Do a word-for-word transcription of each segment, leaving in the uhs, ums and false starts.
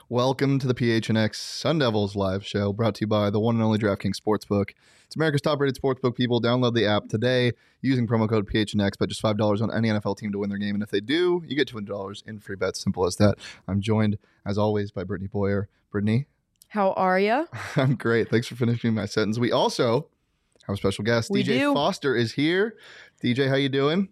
Welcome to the P H N X Sun Devils live show, brought to you by the one and only DraftKings Sportsbook. It's America's top-rated sportsbook. People, download the app today using promo code P H N X, but just five dollars on any N F L team to win their game. And if they do, you get two hundred dollars in free bets. Simple as that. I'm joined, as always, by Brittany Boyer. Brittany? How are you? I'm great. Thanks for finishing my sentence. We also have a special guest. We D J do. Foster is here. D J, how you doing?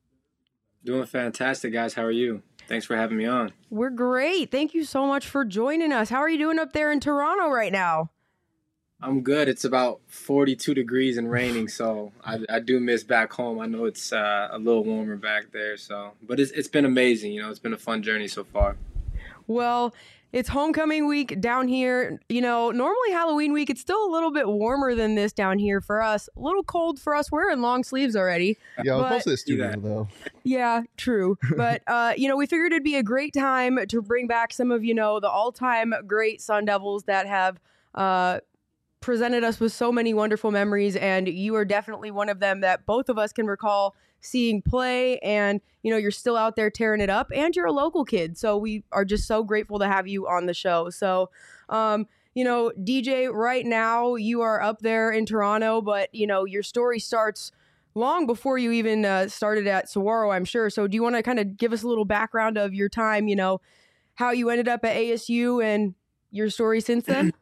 Doing fantastic, guys. How are you? Thanks for having me on. We're great. Thank you so much for joining us. How are you doing up there in Toronto right now? I'm good. It's about forty-two degrees and raining, so I, I do miss back home. I know it's uh, a little warmer back there, so but it's it's been amazing. You know, it's been a fun journey so far. Well, it's homecoming week down here. You know, normally Halloween week, it's still a little bit warmer than this down here for us. A little cold for us. We're in long sleeves already. Yeah, I was but, supposed to the studio, though. Yeah, true. But, uh, you know, we figured it'd be a great time to bring back some of, you know, the all-time great Sun Devils that have uh, presented us with so many wonderful memories. And you are definitely one of them that both of us can recall seeing play, and you know, you're still out there tearing it up, and you're a local kid, so we are just so grateful to have you on the show. So um you know, D J, right now you are up there in Toronto, but you know, your story starts long before you even uh, started at Saguaro, I'm sure. So do you want to kind of give us a little background of your time, you know, how you ended up at A S U and your story since then?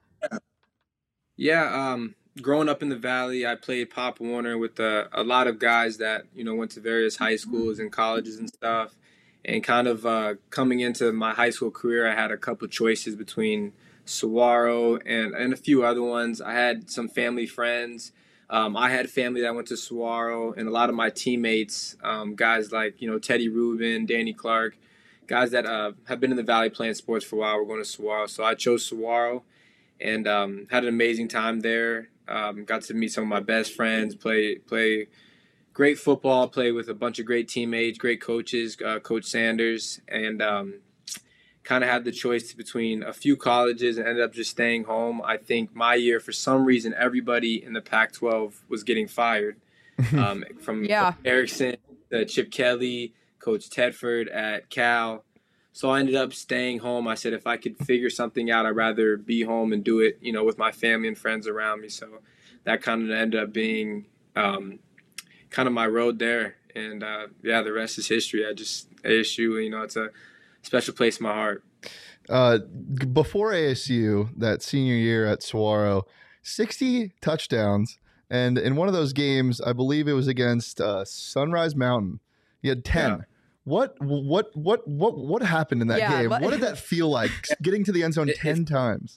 Yeah, um growing up in the Valley, I played Pop Warner with a, a lot of guys that, you know, went to various high schools and colleges and stuff. And kind of uh, coming into my high school career, I had a couple choices between Saguaro and, and a few other ones. I had some family friends. Um, I had family that went to Saguaro, and a lot of my teammates, um, guys like, you know, Teddy Rubin, Danny Clark, guys that uh, have been in the Valley playing sports for a while, were going to Saguaro. So I chose Saguaro and um, had an amazing time there. Um, got to meet some of my best friends, play play great football, play with a bunch of great teammates, great coaches, uh, Coach Sanders, and um, kind of had the choice between a few colleges and ended up just staying home. I think my year, for some reason, everybody in the Pac twelve was getting fired, um, from Yeah. Erickson to Chip Kelly, Coach Tedford at Cal. So I ended up staying home. I said, if I could figure something out, I'd rather be home and do it, you know, with my family and friends around me. So that kind of ended up being um, kind of my road there. And, uh, yeah, the rest is history. I just, A S U, you know, it's a special place in my heart. Uh, before A S U, that senior year at Saguaro, sixty touchdowns. And in one of those games, I believe it was against uh, Sunrise Mountain, you had ten. Yeah. What what what what what happened in that Yeah, game? but- What did that feel like, getting to the end zone It- ten times?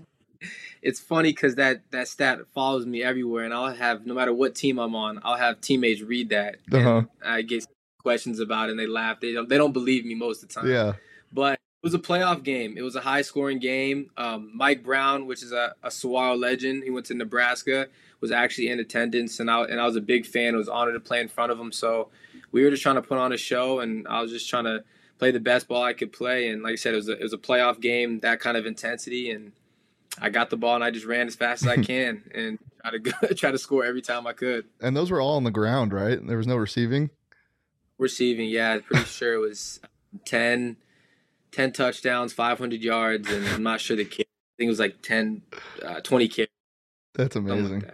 It's funny because that, that stat follows me everywhere, and I'll have, no matter what team I'm on, I'll have teammates read that. Uh-huh. And I get questions about it, and they laugh. They don't, they don't believe me most of the time. Yeah. But it was a playoff game. It was a high-scoring game. Um, Mike Brown, which is a, a Saguaro legend, he went to Nebraska, was actually in attendance, and I, and I was a big fan. I was honored to play in front of him. So we were just trying to put on a show, and I was just trying to play the best ball I could play. And like I said, it was a, it was a playoff game, that kind of intensity, and I got the ball and I just ran as fast as I can and try to go, try to score every time I could. And those were all on the ground, right? There was no receiving? Receiving, yeah, I'm pretty sure it was ten, ten touchdowns, five hundred yards, and I'm not sure the kid. I think it was like ten, uh, twenty carries. That's Something amazing. like that.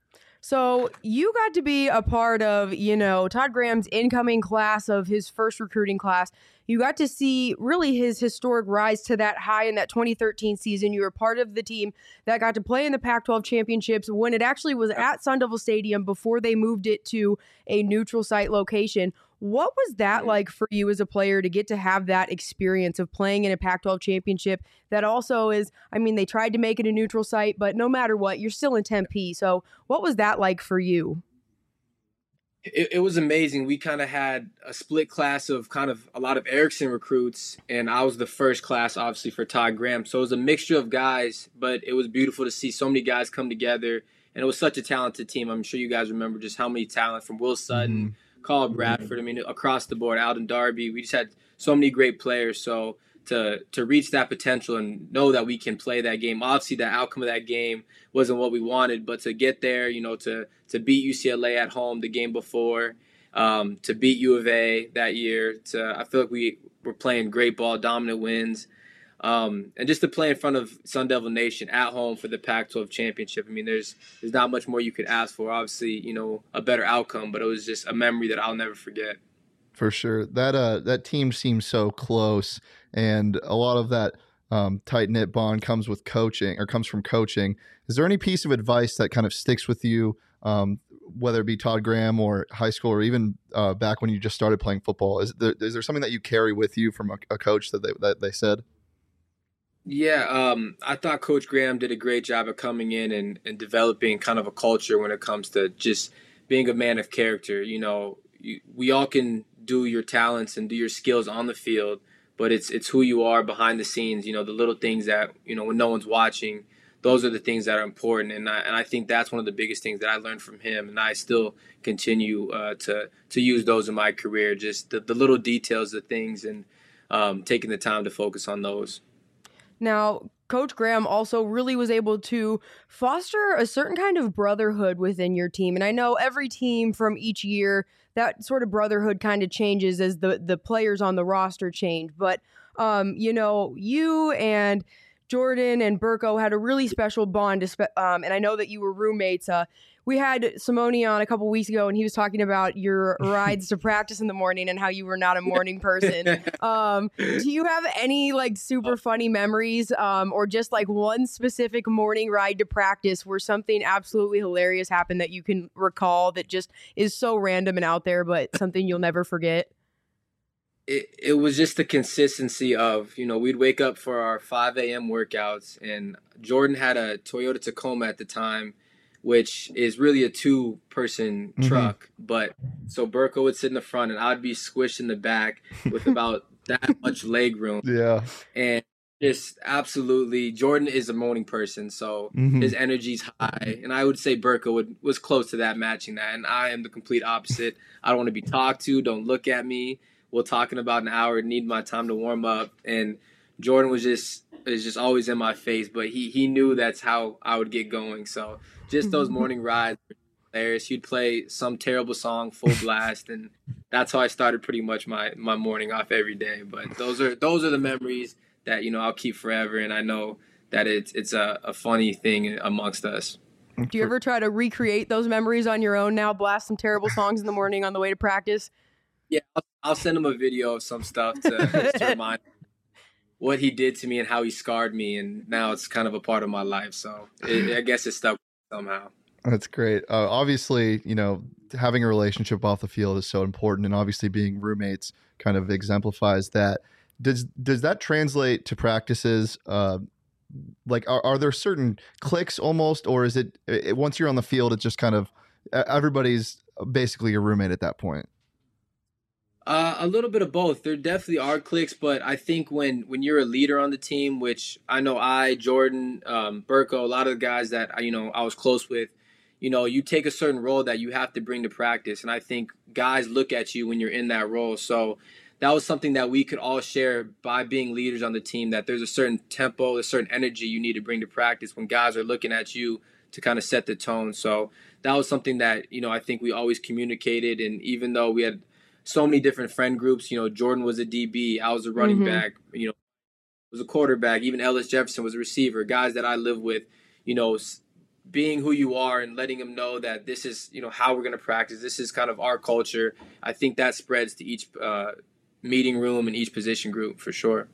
So you got to be a part of, you know, Todd Graham's incoming class of his first recruiting class. You got to see really his historic rise to that high in that twenty thirteen season. You were part of the team that got to play in the Pac twelve championships when it actually was at Sun Devil Stadium before they moved it to a neutral site location. What was that like for you as a player to get to have that experience of playing in a Pac twelve championship that also is, I mean, they tried to make it a neutral site, but no matter what, you're still in Tempe. So what was that like for you? It, it was amazing. We kind of had a split class of kind of a lot of Erickson recruits, and I was the first class, obviously, for Todd Graham. So it was a mixture of guys, but it was beautiful to see so many guys come together, and it was such a talented team. I'm sure you guys remember just how many talent from Will Sutton, Mm-hmm. Carl Bradford, I mean, across the board, Alden Darby. We just had so many great players. So to to reach that potential and know that we can play that game. Obviously, the outcome of that game wasn't what we wanted, but to get there, you know, to to beat U C L A at home the game before, um, to beat U of A that year, to I feel like we were playing great ball, dominant wins. Um, and just to play in front of Sun Devil Nation at home for the Pac twelve championship. I mean, there's there's not much more you could ask for. Obviously, you know, a better outcome, but it was just a memory that I'll never forget. For sure. That uh that team seems so close, and a lot of that um, tight knit bond comes with coaching or comes from coaching. Is there any piece of advice that kind of sticks with you, um, whether it be Todd Graham or high school or even uh, back when you just started playing football? Is there, is there something that you carry with you from a, a coach that they that they said? Yeah, um, I thought Coach Graham did a great job of coming in and, and developing kind of a culture when it comes to just being a man of character. You know, you, we all can do your talents and do your skills on the field, but it's it's who you are behind the scenes. You know, the little things that, you know, when no one's watching, those are the things that are important. And I, and I think that's one of the biggest things that I learned from him, and I still continue uh, to to use those in my career. Just the, the little details of things, and um, taking the time to focus on those. Now, Coach Graham also really was able to foster a certain kind of brotherhood within your team. And I know every team from each year, that sort of brotherhood kind of changes as the, the players on the roster change. But, um, you know, you and Jordan and Burko had a really special bond. Um, and I know that you were roommates. Uh, we had Simone on a couple weeks ago, and he was talking about your rides to practice in the morning and how you were not a morning person. Um, do you have any like super funny memories, um, or just like one specific morning ride to practice where something absolutely hilarious happened that you can recall that just is so random and out there, but something you'll never forget? It, it was just the consistency of, you know, we'd wake up for our five a.m. workouts, and Jordan had a Toyota Tacoma at the time, which is really a two-person mm-hmm. truck. But so Burko would sit in the front, and I'd be squished in the back with about that much leg room. Yeah. And just absolutely, Jordan is a morning person, so mm-hmm. his energy's high. And I would say Burko would, was close to that, matching that. And I am the complete opposite. I don't want to be talked to. Don't look at me. We'll talk in about an hour. Need my time to warm up. And Jordan was just is just always in my face, but he he knew that's how I would get going. So just those morning rides were hilarious. He'd play some terrible song full blast, and that's how I started pretty much my my morning off every day. But those are those are the memories that, you know, I'll keep forever, and I know that it's it's a, a funny thing amongst us. Do you ever try to recreate those memories on your own now? Blast some terrible songs in the morning on the way to practice? Yeah, I'll, I'll send him a video of some stuff to, to remind him what he did to me and how he scarred me, and now it's kind of a part of my life. So it, I guess it stuck somehow. That's great. Uh, obviously, you know, having a relationship off the field is so important, and obviously being roommates kind of exemplifies that. Does does that translate to practices? Uh, like, are, are there certain clicks almost, or is it, it once you're on the field, it's just kind of everybody's basically your roommate at that point? Uh, a little bit of both. There definitely are clicks, but I think when, when you're a leader on the team, which I know I, Jordan, um, Burko, a lot of the guys that I, you know, I was close with, you know, you take a certain role that you have to bring to practice, and I think guys look at you when you're in that role. So that was something that we could all share by being leaders on the team, that there's a certain tempo, a certain energy you need to bring to practice when guys are looking at you to kind of set the tone. So that was something that, you know, I think we always communicated. And even though we had so many different friend groups, you know, Jordan was a D B, I was a running mm-hmm. back, you know, was a quarterback, even Ellis Jefferson was a receiver, guys that I live with, you know, being who you are and letting them know that this is, you know, how we're going to practice. This is kind of our culture. I think that spreads to each uh, meeting room and each position group for sure.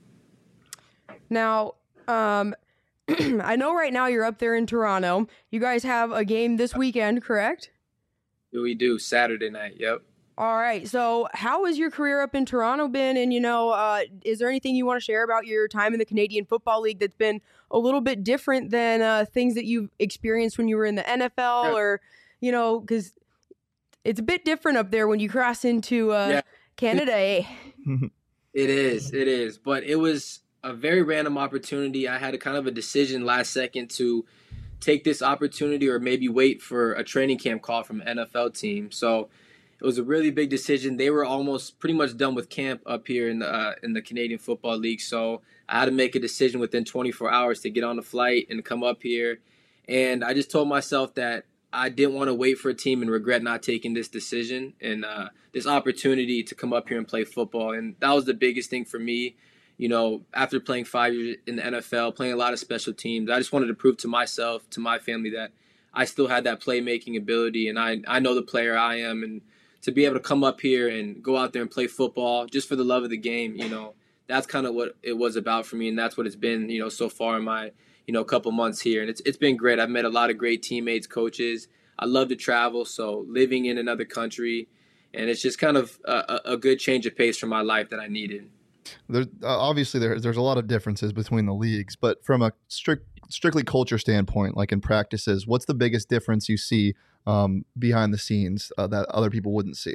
Now, um, I know right now you're up there in Toronto. You guys have a game this weekend, correct? We do. Saturday night. Yep. All right. So how has your career up in Toronto been? And, you know, uh, is there anything you want to share about your time in the Canadian Football League that's been a little bit different than uh, things that you've experienced when you were in the N F L yeah. or, you know, because it's a bit different up there when you cross into uh, yeah. Canada. Eh? It is. It is. But it was a very random opportunity. I had a kind of a decision last second to take this opportunity or maybe wait for a training camp call from an N F L team. So it was a really big decision. They were almost pretty much done with camp up here in the uh, in the Canadian Football League. So I had to make a decision within twenty-four hours to get on the flight and come up here. And I just told myself that I didn't want to wait for a team and regret not taking this decision and uh, this opportunity to come up here and play football. And that was the biggest thing for me. you know, after playing five years in the N F L, playing a lot of special teams, I just wanted to prove to myself, to my family, that I still had that playmaking ability, and I, I know the player I am, and to be able to come up here and go out there and play football just for the love of the game, you know, that's kind of what it was about for me, and that's what it's been, you know, so far in my, you know, couple months here. And it's it's been great. I've met a lot of great teammates, coaches. I love to travel, so living in another country, and it's just kind of a, a good change of pace for my life that I needed. There's uh, obviously there, there's a lot of differences between the leagues, but from a strict strictly culture standpoint, like in practices, what's the biggest difference you see um, behind the scenes uh, that other people wouldn't see?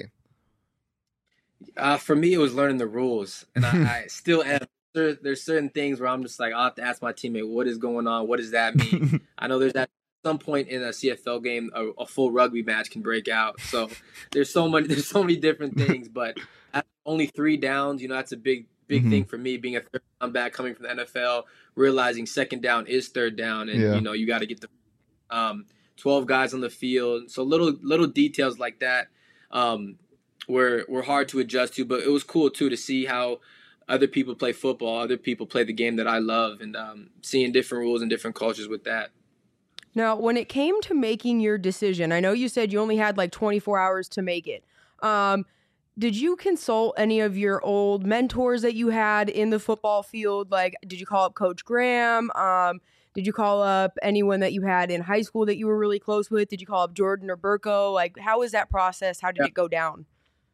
Uh, for me, it was learning the rules, and I, I still am. There, there's certain things where I'm just like, I'll have to ask my teammate, what is going on? What does that mean? I know there's at some point in a C F L game, a, a full rugby match can break out. So there's so many, there's so many different things, but at only three downs, you know, that's a big, big mm-hmm. thing for me, being a third down back coming from the N F L, realizing second down is third down, and yeah. you know, you got to get the um, twelve guys on the field. So little, little details like that um, were, were hard to adjust to, but it was cool too to see how other people play football, other people play the game that I love, and um, seeing different rules and different cultures with that. Now, when it came to making your decision, I know you said you only had like twenty-four hours to make it. Um, did you consult any of your old mentors that you had in the football field? Like, did you call up Coach Graham? Um, did you call up anyone that you had in high school that you were really close with? Did you call up Jordan or Burko? Like, how was that process? How did yeah. it go down?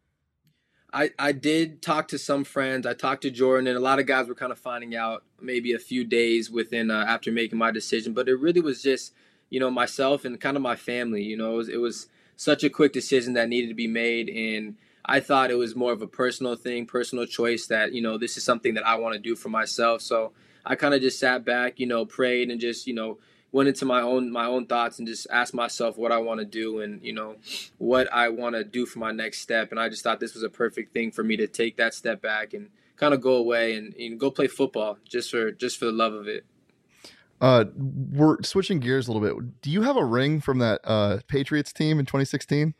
I, I did talk to some friends. I talked to Jordan, and a lot of guys were kind of finding out maybe a few days within uh, after making my decision. But it really was just, you know, myself and kind of my family. You know, it was, it was such a quick decision that needed to be made, and I thought it was more of a personal thing, personal choice that, you know, this is something that I want to do for myself. So I kind of just sat back, you know, prayed, and just, you know, went into my own my own thoughts and just asked myself what I want to do and, you know, what I want to do for my next step. And I just thought this was a perfect thing for me to take that step back and kind of go away and, and go play football just for just for the love of it. Uh, we're switching gears a little bit. Do you have a ring from that uh, Patriots team in twenty sixteen?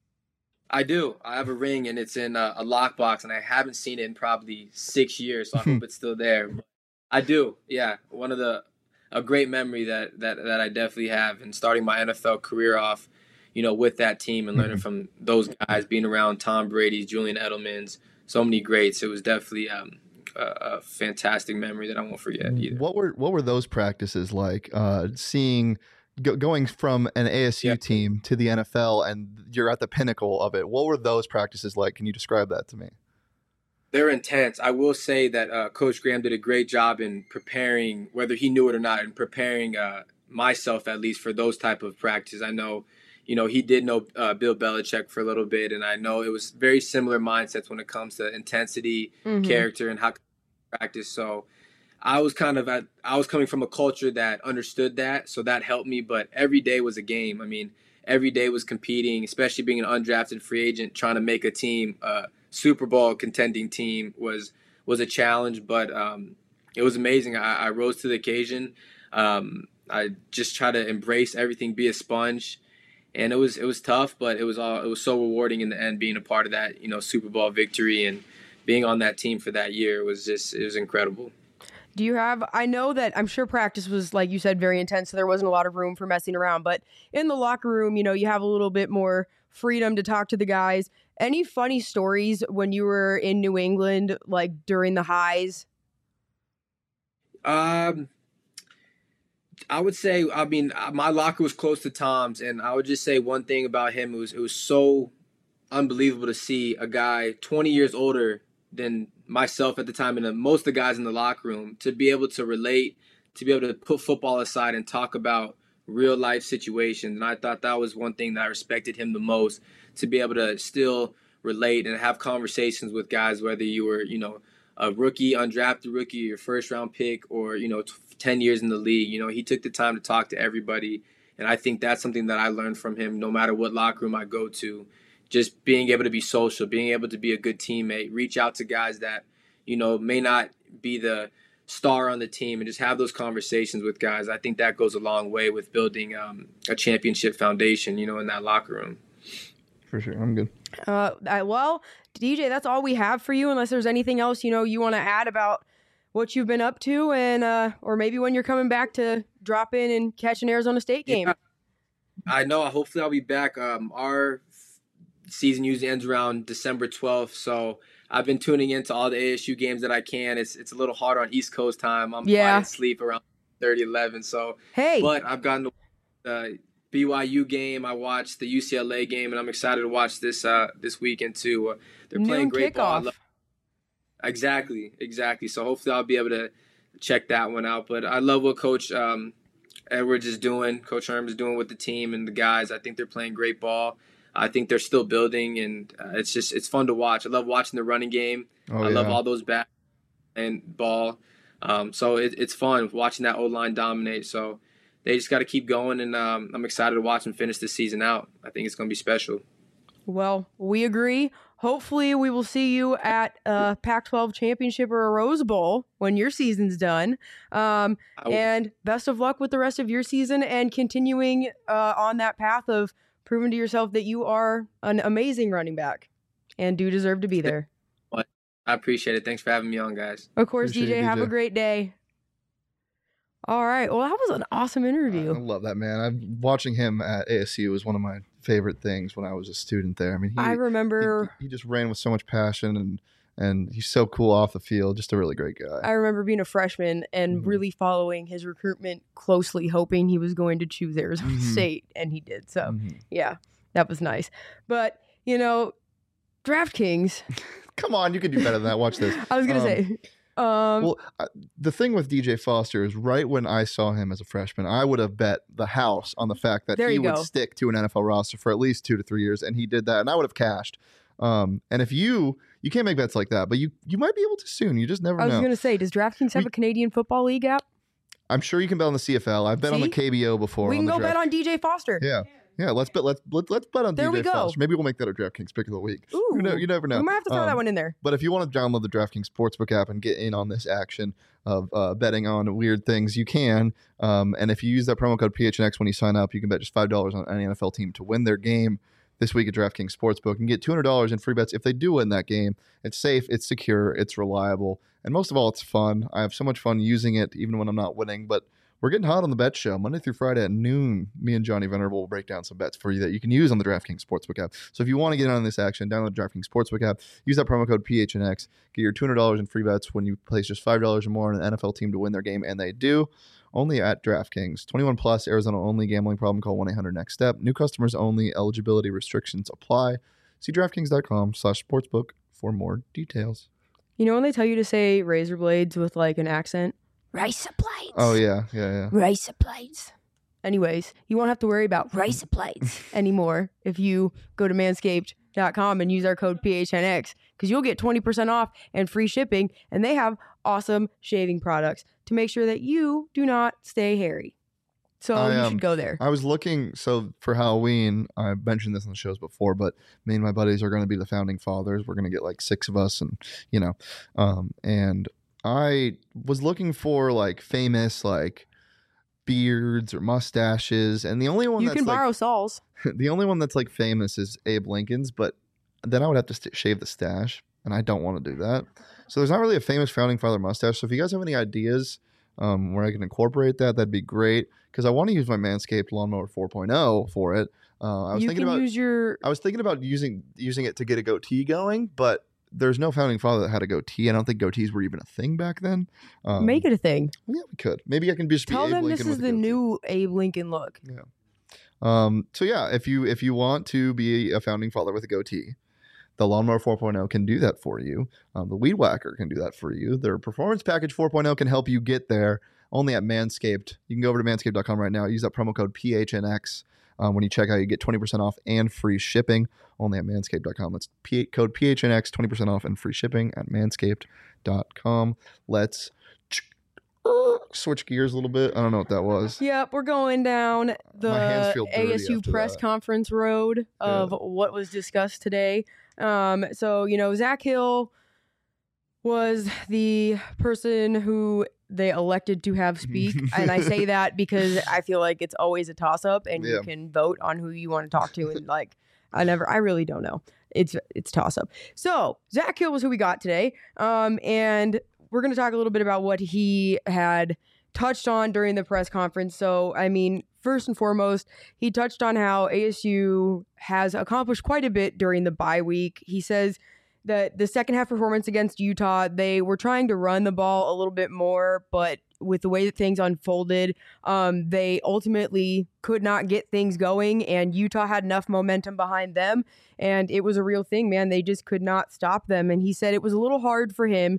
I do. I have a ring, and it's in a, a lockbox, and I haven't seen it in probably six years, so I hope it's still there. But I do. Yeah, one of the a great memory that, that, that I definitely have, and starting my N F L career off, you know, with that team and learning from those guys, being around Tom Brady, Julian Edelman's, so many greats. It was definitely um, a, a fantastic memory that I won't forget either. What were what were those practices like? Uh, seeing go, going from an A S U yeah. team to the N F L, and you're at the pinnacle of it. What were those practices like? Can you describe that to me? They're intense. I will say that uh, Coach Graham did a great job in preparing, whether he knew it or not, in preparing uh, myself at least for those type of practices. I know, you know, he did know uh, Bill Belichick for a little bit, and I know it was very similar mindsets when it comes to intensity, mm-hmm. character, and how to practice. So I was kind of at, I was coming from a culture that understood that, so that helped me. But every day was a game. I mean, every day was competing, especially being an undrafted free agent, trying to make a team. Uh, Super Bowl contending team was was a challenge, but um, it was amazing. I, I rose to the occasion. Um, I just try to embrace everything, be a sponge, and it was it was tough, but it was all it was so rewarding in the end. Being a part of that, you know, Super Bowl victory and being on that team for that year was just it was incredible. Do you have, I know that I'm sure practice was, like you said, very intense, so there wasn't a lot of room for messing around, but in the locker room, you know, you have a little bit more freedom to talk to the guys. Any funny stories when you were in New England, like during the highs? Um, I would say, I mean, my locker was close to Tom's, and I would just say one thing about him. It was, it was so unbelievable to see a guy twenty years older than myself at the time, and most of the guys in the locker room, to be able to relate, to be able to put football aside and talk about real life situations. And I thought that was one thing that I respected him the most, to be able to still relate and have conversations with guys, whether you were, you know, a rookie, undrafted rookie, your first round pick, or, you know, ten years in the league. You know, he took the time to talk to everybody. And I think that's something that I learned from him, no matter what locker room I go to. Just being able to be social, being able to be a good teammate, reach out to guys that, you know, may not be the star on the team, and just have those conversations with guys. I think that goes a long way with building um, a championship foundation, you know, in that locker room. For sure. I'm good. Uh, I, well, D J, that's all we have for you, unless there's anything else, you know, you want to add about what you've been up to, and uh, or maybe when you're coming back to drop in and catch an Arizona State game. Yeah, I know. Hopefully, I'll be back. Um, our season usually ends around December twelfth, so I've been tuning into all the A S U games that I can. It's it's a little harder on East Coast time. I'm yeah. falling asleep around thirty, eleven. So, hey, but I've gotten the uh, B Y U game. I watched the U C L A game, and I'm excited to watch this uh, this weekend too. Uh, they're Noon playing great kickoff. ball. I love- exactly, exactly. So hopefully I'll be able to check that one out. But I love what Coach um, Edwards is doing. Coach Herm is doing with the team and the guys. I think they're playing great ball. I think they're still building, and uh, it's just it's fun to watch. I love watching the running game. Oh, I yeah. love all those back and ball. Um, so it, it's fun watching that O-line dominate. So they just got to keep going, and um, I'm excited to watch them finish this season out. I think it's going to be special. Well, we agree. Hopefully, we will see you at a Pac twelve championship or a Rose Bowl when your season's done. Um, and best of luck with the rest of your season and continuing uh, on that path of proving to yourself that you are an amazing running back and do deserve to be there. I appreciate it. Thanks for having me on, guys. Of course, Appreciate D J. you, Have D J. a great day. All right. Well, that was an awesome interview. I love that, man. I'm watching him at A S U was one of my favorite things when I was a student there. I mean, he, I remember he, he just ran with so much passion, and and he's so cool off the field. Just a really great guy. I remember being a freshman and Mhm. really following his recruitment closely, hoping he was going to choose Arizona Mhm. State, and he did. So, Mhm. yeah, that was nice. But, you know, DraftKings, Come on, you can do better than that. Watch this. I was going to Um, say, um, Well, uh, the thing with D J Foster is right when I saw him as a freshman, I would have bet the house on the fact that There he you would go. stick to an N F L roster for at least two to three years, and he did that, and I would have cashed. Um, and if you you can't make bets like that, but you you might be able to soon. You just never I was know. going to say, does DraftKings have We- a Canadian Football League app? I'm sure you can bet on the C F L. I've bet on the See? K B O before. We on can the go draft. bet on D J Foster. Yeah, yeah. Let's bet. Let's let, let's bet on There D J we go. Foster. Maybe we'll make that a DraftKings pick of the week. Ooh, You know, you never know. we might have to throw that Um, one in there. But if you want to download the DraftKings Sportsbook app and get in on this action of uh, betting on weird things, you can. Um, and if you use that promo code P H N X when you sign up, you can bet just five dollars on any N F L team to win their game this week at DraftKings Sportsbook and get two hundred dollars in free bets if they do win that game. It's safe, it's secure, it's reliable, and most of all, it's fun. I have so much fun using it even when I'm not winning, but we're getting hot on the bet show. Monday through Friday at noon, me and Johnny Venerable will break down some bets for you that you can use on the DraftKings Sportsbook app. So if you want to get in on this action, download the DraftKings Sportsbook app, use that promo code P H N X, get your two hundred dollars in free bets when you place just five dollars or more on an N F L team to win their game, and they do. Only at DraftKings. twenty-one plus, Arizona only. Gambling problem, call one eight hundred next step. New customers only. Eligibility restrictions apply. See DraftKings.com slash sportsbook for more details. You know when they tell you to say razor blades with like an accent? Razor blades. Oh, yeah, yeah, yeah. Razor blades. Anyways, you won't have to worry about razor blades anymore if you go to manscaped dot com and use our code P H N X because you'll get twenty percent off and free shipping, and they have awesome shaving products to make sure that you do not stay hairy. So I, you um, should go there. I was looking, so for Halloween, I mentioned this on the shows before, but me and my buddies are going to be the founding fathers. We're going to get like six of us, and, you know, um, and I was looking for like famous, like, beards or mustaches, and the only one You that's can like, borrow Saul's. the only one that's like famous is Abe Lincoln's, but then I would have to st- shave the stash, and I don't want to do that. So there's not really a famous founding father mustache. So if you guys have any ideas um, where I can incorporate that, that'd be great. Because I want to use my Manscaped Lawnmower four point oh for it. Uh, I was You thinking can about use your. I was thinking about using using it to get a goatee going, but there's no founding father that had a goatee. I don't think goatees were even a thing back then. Um, Make it a thing. Yeah, we could. Maybe I can just Tell be Abe them Lincoln this is with a the goatee. new Abe Lincoln look. Um, so yeah, if you if you want to be a founding father with a goatee, the Lawnmower four point oh can do that for you. Um, the Weed Whacker can do that for you. Their Performance Package four point oh can help you get there. Only at Manscaped. You can go over to manscaped dot com right now. Use that promo code P H N X. Um, when you check out, you get twenty percent off and free shipping. Only at manscaped dot com. That's P- code P H N X, twenty percent off and free shipping at manscaped dot com. Let's switch gears a little bit. I don't know what that was. Yep, we're going down My hands the feel dirty A S U after press that. conference road of what was discussed today. Um, so, you know, Zach Hill was the person who they elected to have speak. And I say that because I feel like it's always a toss-up and Yeah. you can vote on who you want to talk to. And like, I never, I really don't know. It's it's toss-up. So, Zach Hill was who we got today. Um, and we're going to talk a little bit about what he had touched on during the press conference. So, I mean, first and foremost, he touched on how A S U has accomplished quite a bit during the bye week. He says that the second half performance against Utah, they were trying to run the ball a little bit more, but with the way that things unfolded, um, they ultimately could not get things going, and Utah had enough momentum behind them, and it was a real thing, man. They just could not stop them. And he said it was a little hard for him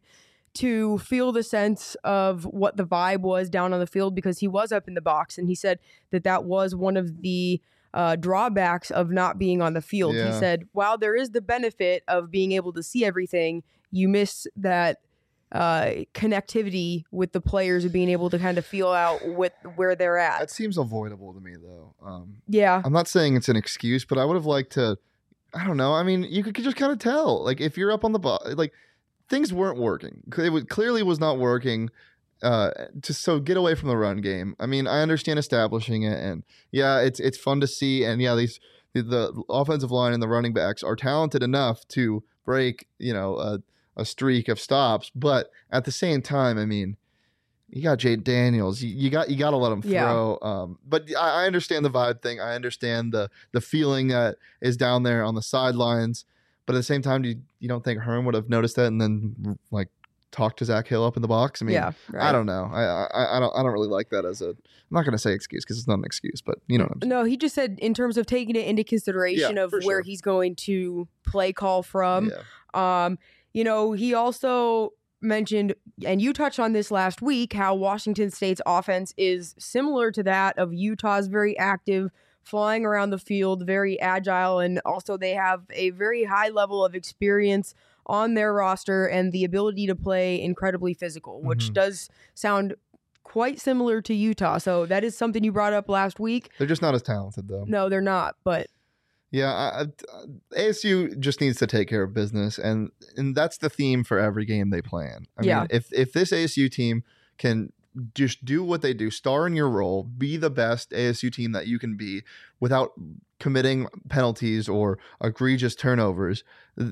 to feel the sense of what the vibe was down on the field because he was up in the box. And he said that that was one of the uh, drawbacks of not being on the field. Yeah. He said, while there is the benefit of being able to see everything, you miss that uh, connectivity with the players of being able to kind of feel out with where they're at. That seems avoidable to me, though. Um, yeah. I'm not saying it's an excuse, but I would have liked to, I don't know. I mean, you could, could just kind of tell. Like, if you're up on the ball, like, things weren't working. It was, clearly was not working. Uh, to so get away from the run game. I mean, I understand establishing it, and yeah, it's it's fun to see. And yeah, these the, the offensive line and the running backs are talented enough to break, you know, a, a streak of stops. But at the same time, I mean, you got Jade Daniels. You, you got you got to let him throw. Yeah. Um, but I, I understand the vibe thing. I understand the the feeling that is down there on the sidelines. But at the same time, do you, you don't think Herm would have noticed that and then like talk to Zach Hill up in the box? I mean, yeah, right. I don't know. I, I I don't I don't really like that as a. I'm not going to say excuse because it's not an excuse, but you know what I'm saying. No, he just said in terms of taking it into consideration yeah, of where sure. he's going to play call from. Yeah. Um, you know, he also mentioned, and you touched on this last week, how Washington State's offense is similar to that of Utah's, very active, flying around the field, very agile, and also they have a very high level of experience on their roster and the ability to play incredibly physical, which mm-hmm. does sound quite similar to Utah. So that is something you brought up last week. They're just not as talented, though. No, they're not, but... Yeah, I, I, A S U just needs to take care of business, and and that's the theme for every game they plan. I yeah. mean, if if this A S U team can just do what they do, star in your role, be the best A S U team that you can be without committing penalties or egregious turnovers,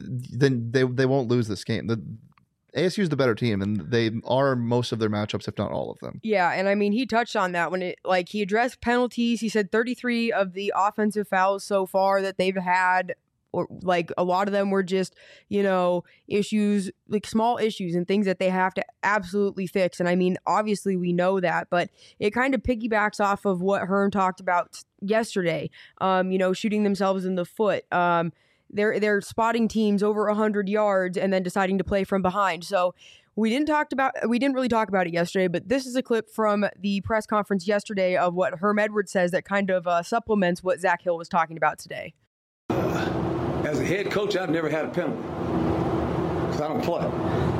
then they they won't lose this game. The A S U is the better team, and they are most of their matchups, if not all of them. Yeah, and I mean, he touched on that when it, like, he addressed penalties. He said thirty-three of the offensive fouls so far that they've had, or like a lot of them were just, you know, issues, like small issues and things that they have to absolutely fix. And I mean, obviously we know that, but it kind of piggybacks off of what Herm talked about yesterday, um, you know, shooting themselves in the foot. Um, They're they're spotting teams over one hundred yards and then deciding to play from behind. So we didn't talk about we didn't really talk about it yesterday, but this is a clip from the press conference yesterday of what Herm Edwards says that kind of uh, supplements what Zach Hill was talking about today. Uh, as a head coach, I've never had a penalty because I don't play.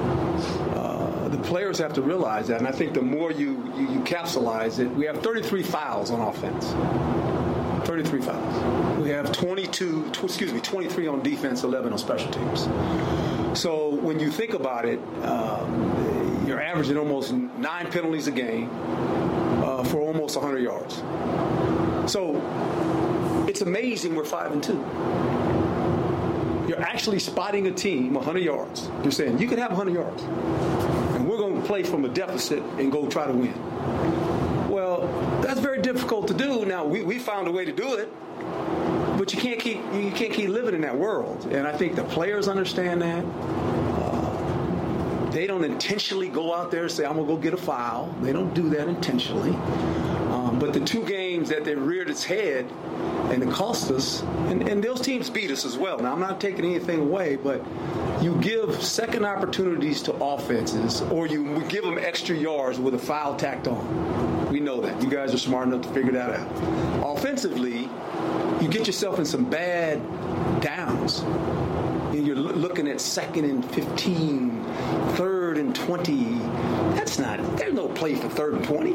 Uh, the players have to realize that, and I think the more you, you, you capsulize it, we have thirty-three fouls on offense. thirty-three fouls. We have twenty-two, tw- excuse me, twenty-three on defense, eleven on special teams. So when you think about it, um, you're averaging almost nine penalties a game uh, for almost one hundred yards. So it's amazing we're five and two. You're actually spotting a team one hundred yards. You're saying you can have one hundred yards, and we're going to play from a deficit and go try to win. Well, that's very difficult to do. Now we, we found a way to do it, but you can't keep you can't keep living in that world. And I think the players understand that. Uh, they don't intentionally go out there and say, "I'm gonna go get a foul." They don't do that intentionally. Um, but the two games that they reared its head and it cost us, and, and those teams beat us as well. Now I'm not taking anything away, but you give second opportunities to offenses, or you give them extra yards with a foul tacked on. We know that. You guys are smart enough to figure that out. Offensively, you get yourself in some bad downs. And you're l- looking at second and fifteen, third and twenty. That's not, there's no play for third and twenty.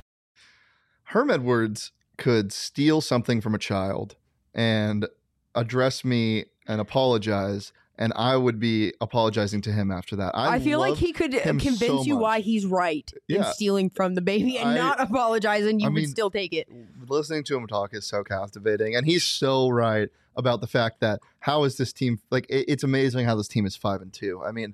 Herm Edwards could steal something from a child and address me and apologize, and I would be apologizing to him after that. I, I feel like he could convince so you much. why he's right yeah. in stealing from the baby and I, not apologizing. You I would mean, still take it. Listening to him talk is so captivating, and he's so right about the fact that how is this team like? It, it's amazing how this team is five and two. I mean,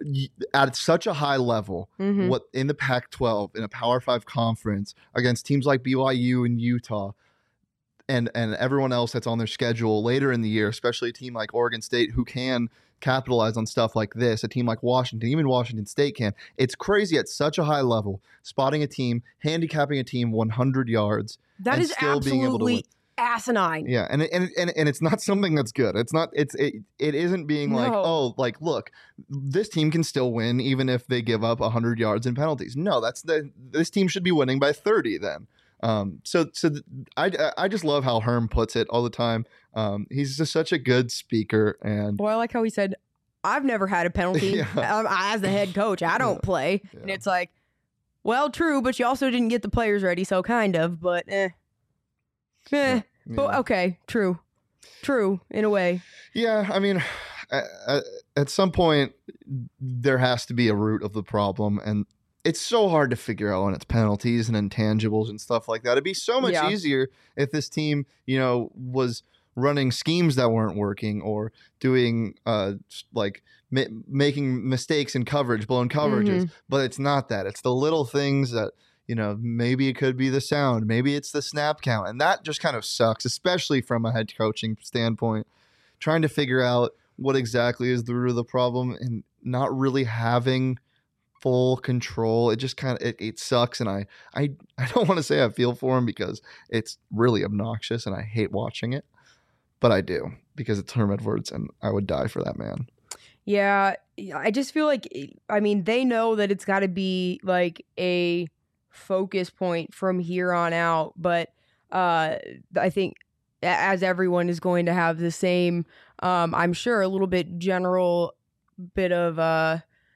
y- at such a high level, Mhm. what in the Pac twelve, in a Power Five conference, against teams like B Y U and Utah, and and everyone else that's on their schedule later in the year, especially a team like Oregon State who can capitalize on stuff like this, a team like Washington, even Washington State can. It's crazy at such a high level, spotting a team, handicapping a team one hundred yards. That and is still being able to win. absolutely asinine. Yeah, and it- and it- and it- and it's not something that's good. It's not. It's it. It isn't being like, No. oh, like look, this team can still win even if they give up one hundred yards in penalties. No, that's the. This team should be winning by thirty then. Um. So so th- I I just love how Herm puts it all the time. Um. He's just such a good speaker, and Well, I like how he said, I've never had a penalty Yeah. um, as the head coach. I don't Yeah. play. And Yeah. it's like, well, true, but you also didn't get the players ready, so kind of, but eh. Eh. But yeah. okay, true. True, in a way. Yeah, I mean, at, at- at some point, there has to be a root of the problem, and it's so hard to figure out when it's penalties and intangibles and stuff like that. It'd be so much Yeah. easier if this team, you know, was running schemes that weren't working or doing uh like ma- making mistakes in coverage, blown coverages. But it's not that. It's the little things that, you know, maybe it could be the sound, maybe it's the snap count, and that just kind of sucks, especially from a head coaching standpoint. Trying to figure out what exactly is the root of the problem and not really having full control. It just kind of it, it sucks, and I I I don't want to say I feel for him because it's really obnoxious and I hate watching it, but I do because it's Herm Edwards and I would die for that man. Yeah, I just feel like, I mean, they know that it's got to be like a focus point from here on out, but uh, I think a- as everyone is going to have the same, um, I'm sure, a little bit general bit of, uh,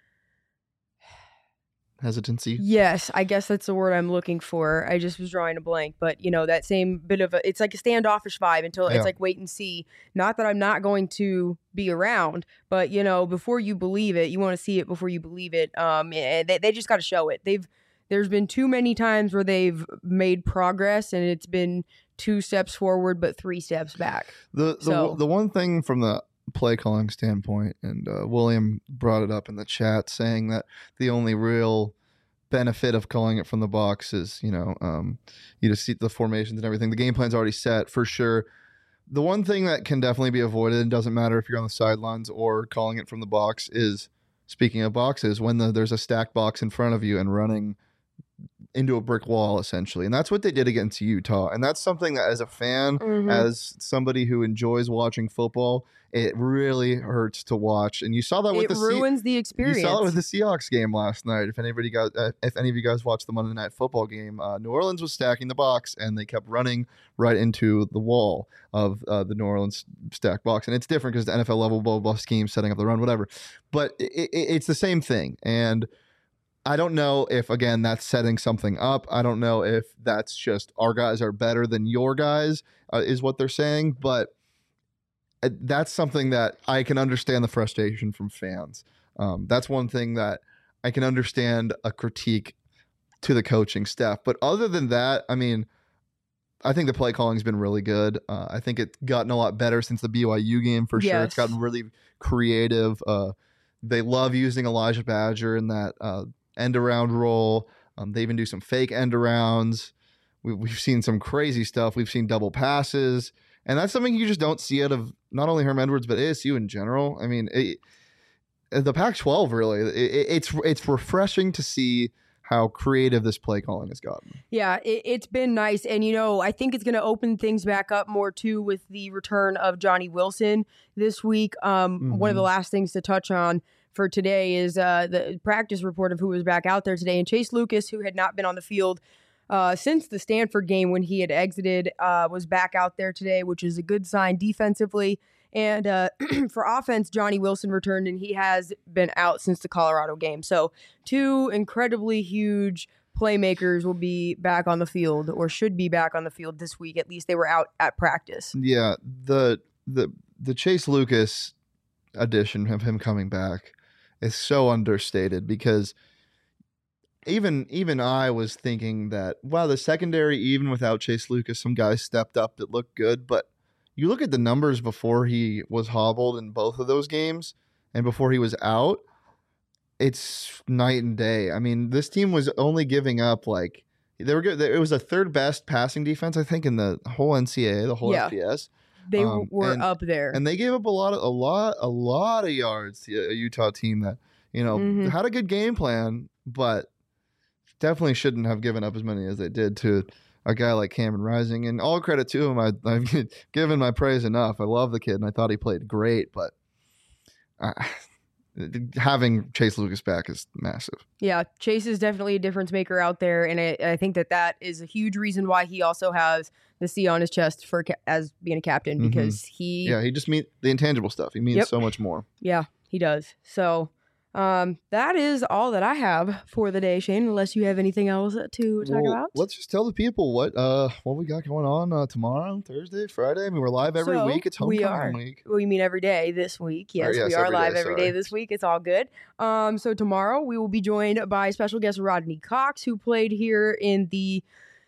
Hesitancy. yes, I guess that's the word I'm looking for. I just was drawing a blank, but you know, that same bit of a, it's like a standoffish vibe until Yeah. it's like wait and see. Not that I'm not going to be around, but you know, before you believe it, you want to see it before you believe it. Um, and they, they just got to show it. They've, there's been too many times where they've made progress and it's been two steps forward, but three steps back. The the So- the one thing from the play calling standpoint, and uh, William brought it up in the chat, saying that the only real benefit of calling it from the box is, you know, um, you just see the formations and everything. The game plan's already set for sure. The one thing that can definitely be avoided, and doesn't matter if you're on the sidelines or calling it from the box, is, speaking of boxes, when the, there's a stacked box in front of you and running into a brick wall, essentially. And that's what they did against Utah. And that's something that, as a fan, Mhm. as somebody who enjoys watching football, it really hurts to watch. And you saw that with It the Se- ruins the experience. you saw it with the Seahawks game last night. If anybody guys, uh, if any of you guys watched the Monday Night Football game, uh, New Orleans was stacking the box, and they kept running right into the wall of uh, the New Orleans stack box. And it's different because the N F L level blah, blah, blah scheme, setting up the run, whatever. But it, it, it's the same thing. And I don't know if, again, that's setting something up. I don't know if that's just our guys are better than your guys, uh, is what they're saying. But uh, that's something that I can understand the frustration from fans. Um, that's one thing that I can understand a critique to the coaching staff. But other than that, I mean, I think the play calling's been really good. Uh, I think it's gotten a lot better since the B Y U game for sure. It's Yes. gotten really creative. Uh, they love using Elijah Badger in that uh, end around role. Um, they even do some fake end arounds. We, we've seen some crazy stuff. We've seen double passes. And that's something you just don't see out of not only Herm Edwards, but A S U in general. I mean, it, the Pac twelve, really, it, it's it's refreshing to see how creative this play calling has gotten. Yeah, it, it's been nice. And, you know, I think it's going to open things back up more, too, with the return of Johnny Wilson this week. Um, One of the Mhm. last things to touch on for today is uh, the practice report of who was back out there today. And Chase Lucas, who had not been on the field uh, since the Stanford game when he had exited, uh, was back out there today, which is a good sign defensively. And uh, for offense, Johnny Wilson returned, and he has been out since the Colorado game. So two incredibly huge playmakers will be back on the field, or should be back on the field this week. At least they were out at practice. Yeah, the the the Chase Lucas addition of him coming back is so understated, because even even I was thinking that, wow, the secondary, even without Chase Lucas, some guys stepped up that looked good. But you look at the numbers before he was hobbled in both of those games and before he was out, it's night and day. I mean, this team was only giving up like they were good. It was the third best passing defense, I think, in the whole N C A A, the whole Yeah. F B S. They Um, were and- up there. And they gave up a lot of a lot a lot of yards to a Utah team that, you know, Mhm. had a good game plan, but definitely shouldn't have given up as many as they did to a guy like Cameron Rising. And all credit to him. I, I've given my praise enough. I love the kid, and I thought he played great, but uh, having Chase Lucas back is massive. Yeah, Chase is definitely a difference maker out there, and I, I think that that is a huge reason why he also has the C on his chest for ca- as being a captain, Mhm. because he Yeah, he just means the intangible stuff. He means Yep. so much more. yeah, he does. So um, that is all that I have for the day, Shane. Unless you have anything else to talk Well, about. let's just tell the people what uh what we got going on uh, tomorrow, Thursday, Friday. I mean, we're live every So, week. It's we homecoming are. week. Well, you mean every day this week? Yes, yes, we are every live day, every day sorry. this week. It's all good. Um, so tomorrow we will be joined by special guest Rodney Cox, who played here in the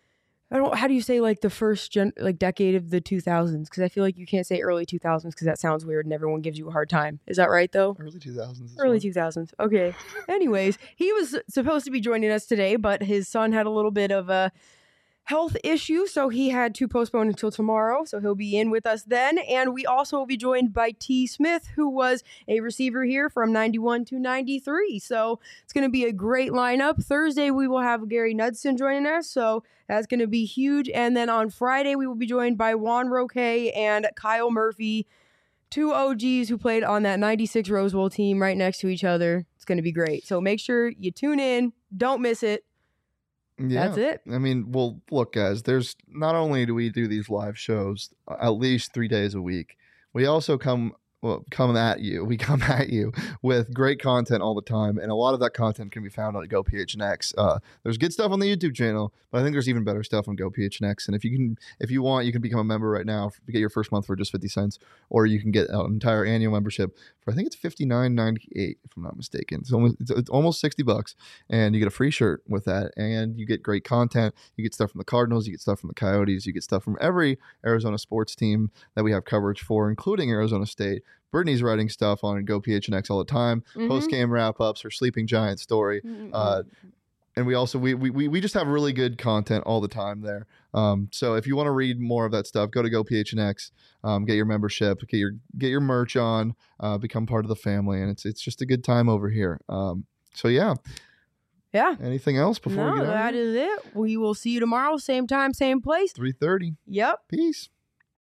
I don't how do you say like the first gen, like decade of the two thousands? Because I feel like you can't say early two thousands because that sounds weird and everyone gives you a hard time. Is that right though? Early two thousands. Early two thousands. Okay. Anyways, he was supposed to be joining us today, but his son had a little bit of a health issue, so he had to postpone until tomorrow. So he'll be in with us then. And we also will be joined by T. Smith, who was a receiver here from ninety-one to ninety-three. So it's going to be a great lineup. Thursday, we will have Gary Knudsen joining us. So that's going to be huge. And then on Friday, we will be joined by Juan Roque and Kyle Murphy, two O Gs who played on that ninety-six Rose Bowl team right next to each other. It's going to be great. So make sure you tune in. Don't miss it. Yeah. That's it. I mean, well, look, guys, there's not only do we do these live shows uh, at least three days a week, we also come well, come at you. We come at you with great content all the time, and a lot of that content can be found on Go P H N X. Uh, there's good stuff on the YouTube channel, but I think there's even better stuff on Go P H N X. And if you can, if you want, you can become a member right now. You get your first month for just fifty cents, or you can get an entire annual membership for I think it's fifty-nine ninety-eight, if I'm not mistaken. It's almost it's, it's almost sixty bucks, and you get a free shirt with that, and you get great content. You get stuff from the Cardinals, you get stuff from the Coyotes, you get stuff from every Arizona sports team that we have coverage for, including Arizona State. Brittany's writing stuff on Go P H N X all the time, Mhm. post game wrap ups, her Sleeping Giant story, uh, and we also we, we we just have really good content all the time there. Um, so if you want to read more of that stuff, go to Go P H N X, um, get your membership, get your get your merch on, uh, become part of the family, and it's it's just a good time over here. Um, so yeah, Yeah. anything else before No, we get out? that is it. We will see you tomorrow, same time, same place. Three thirty. Yep. Peace.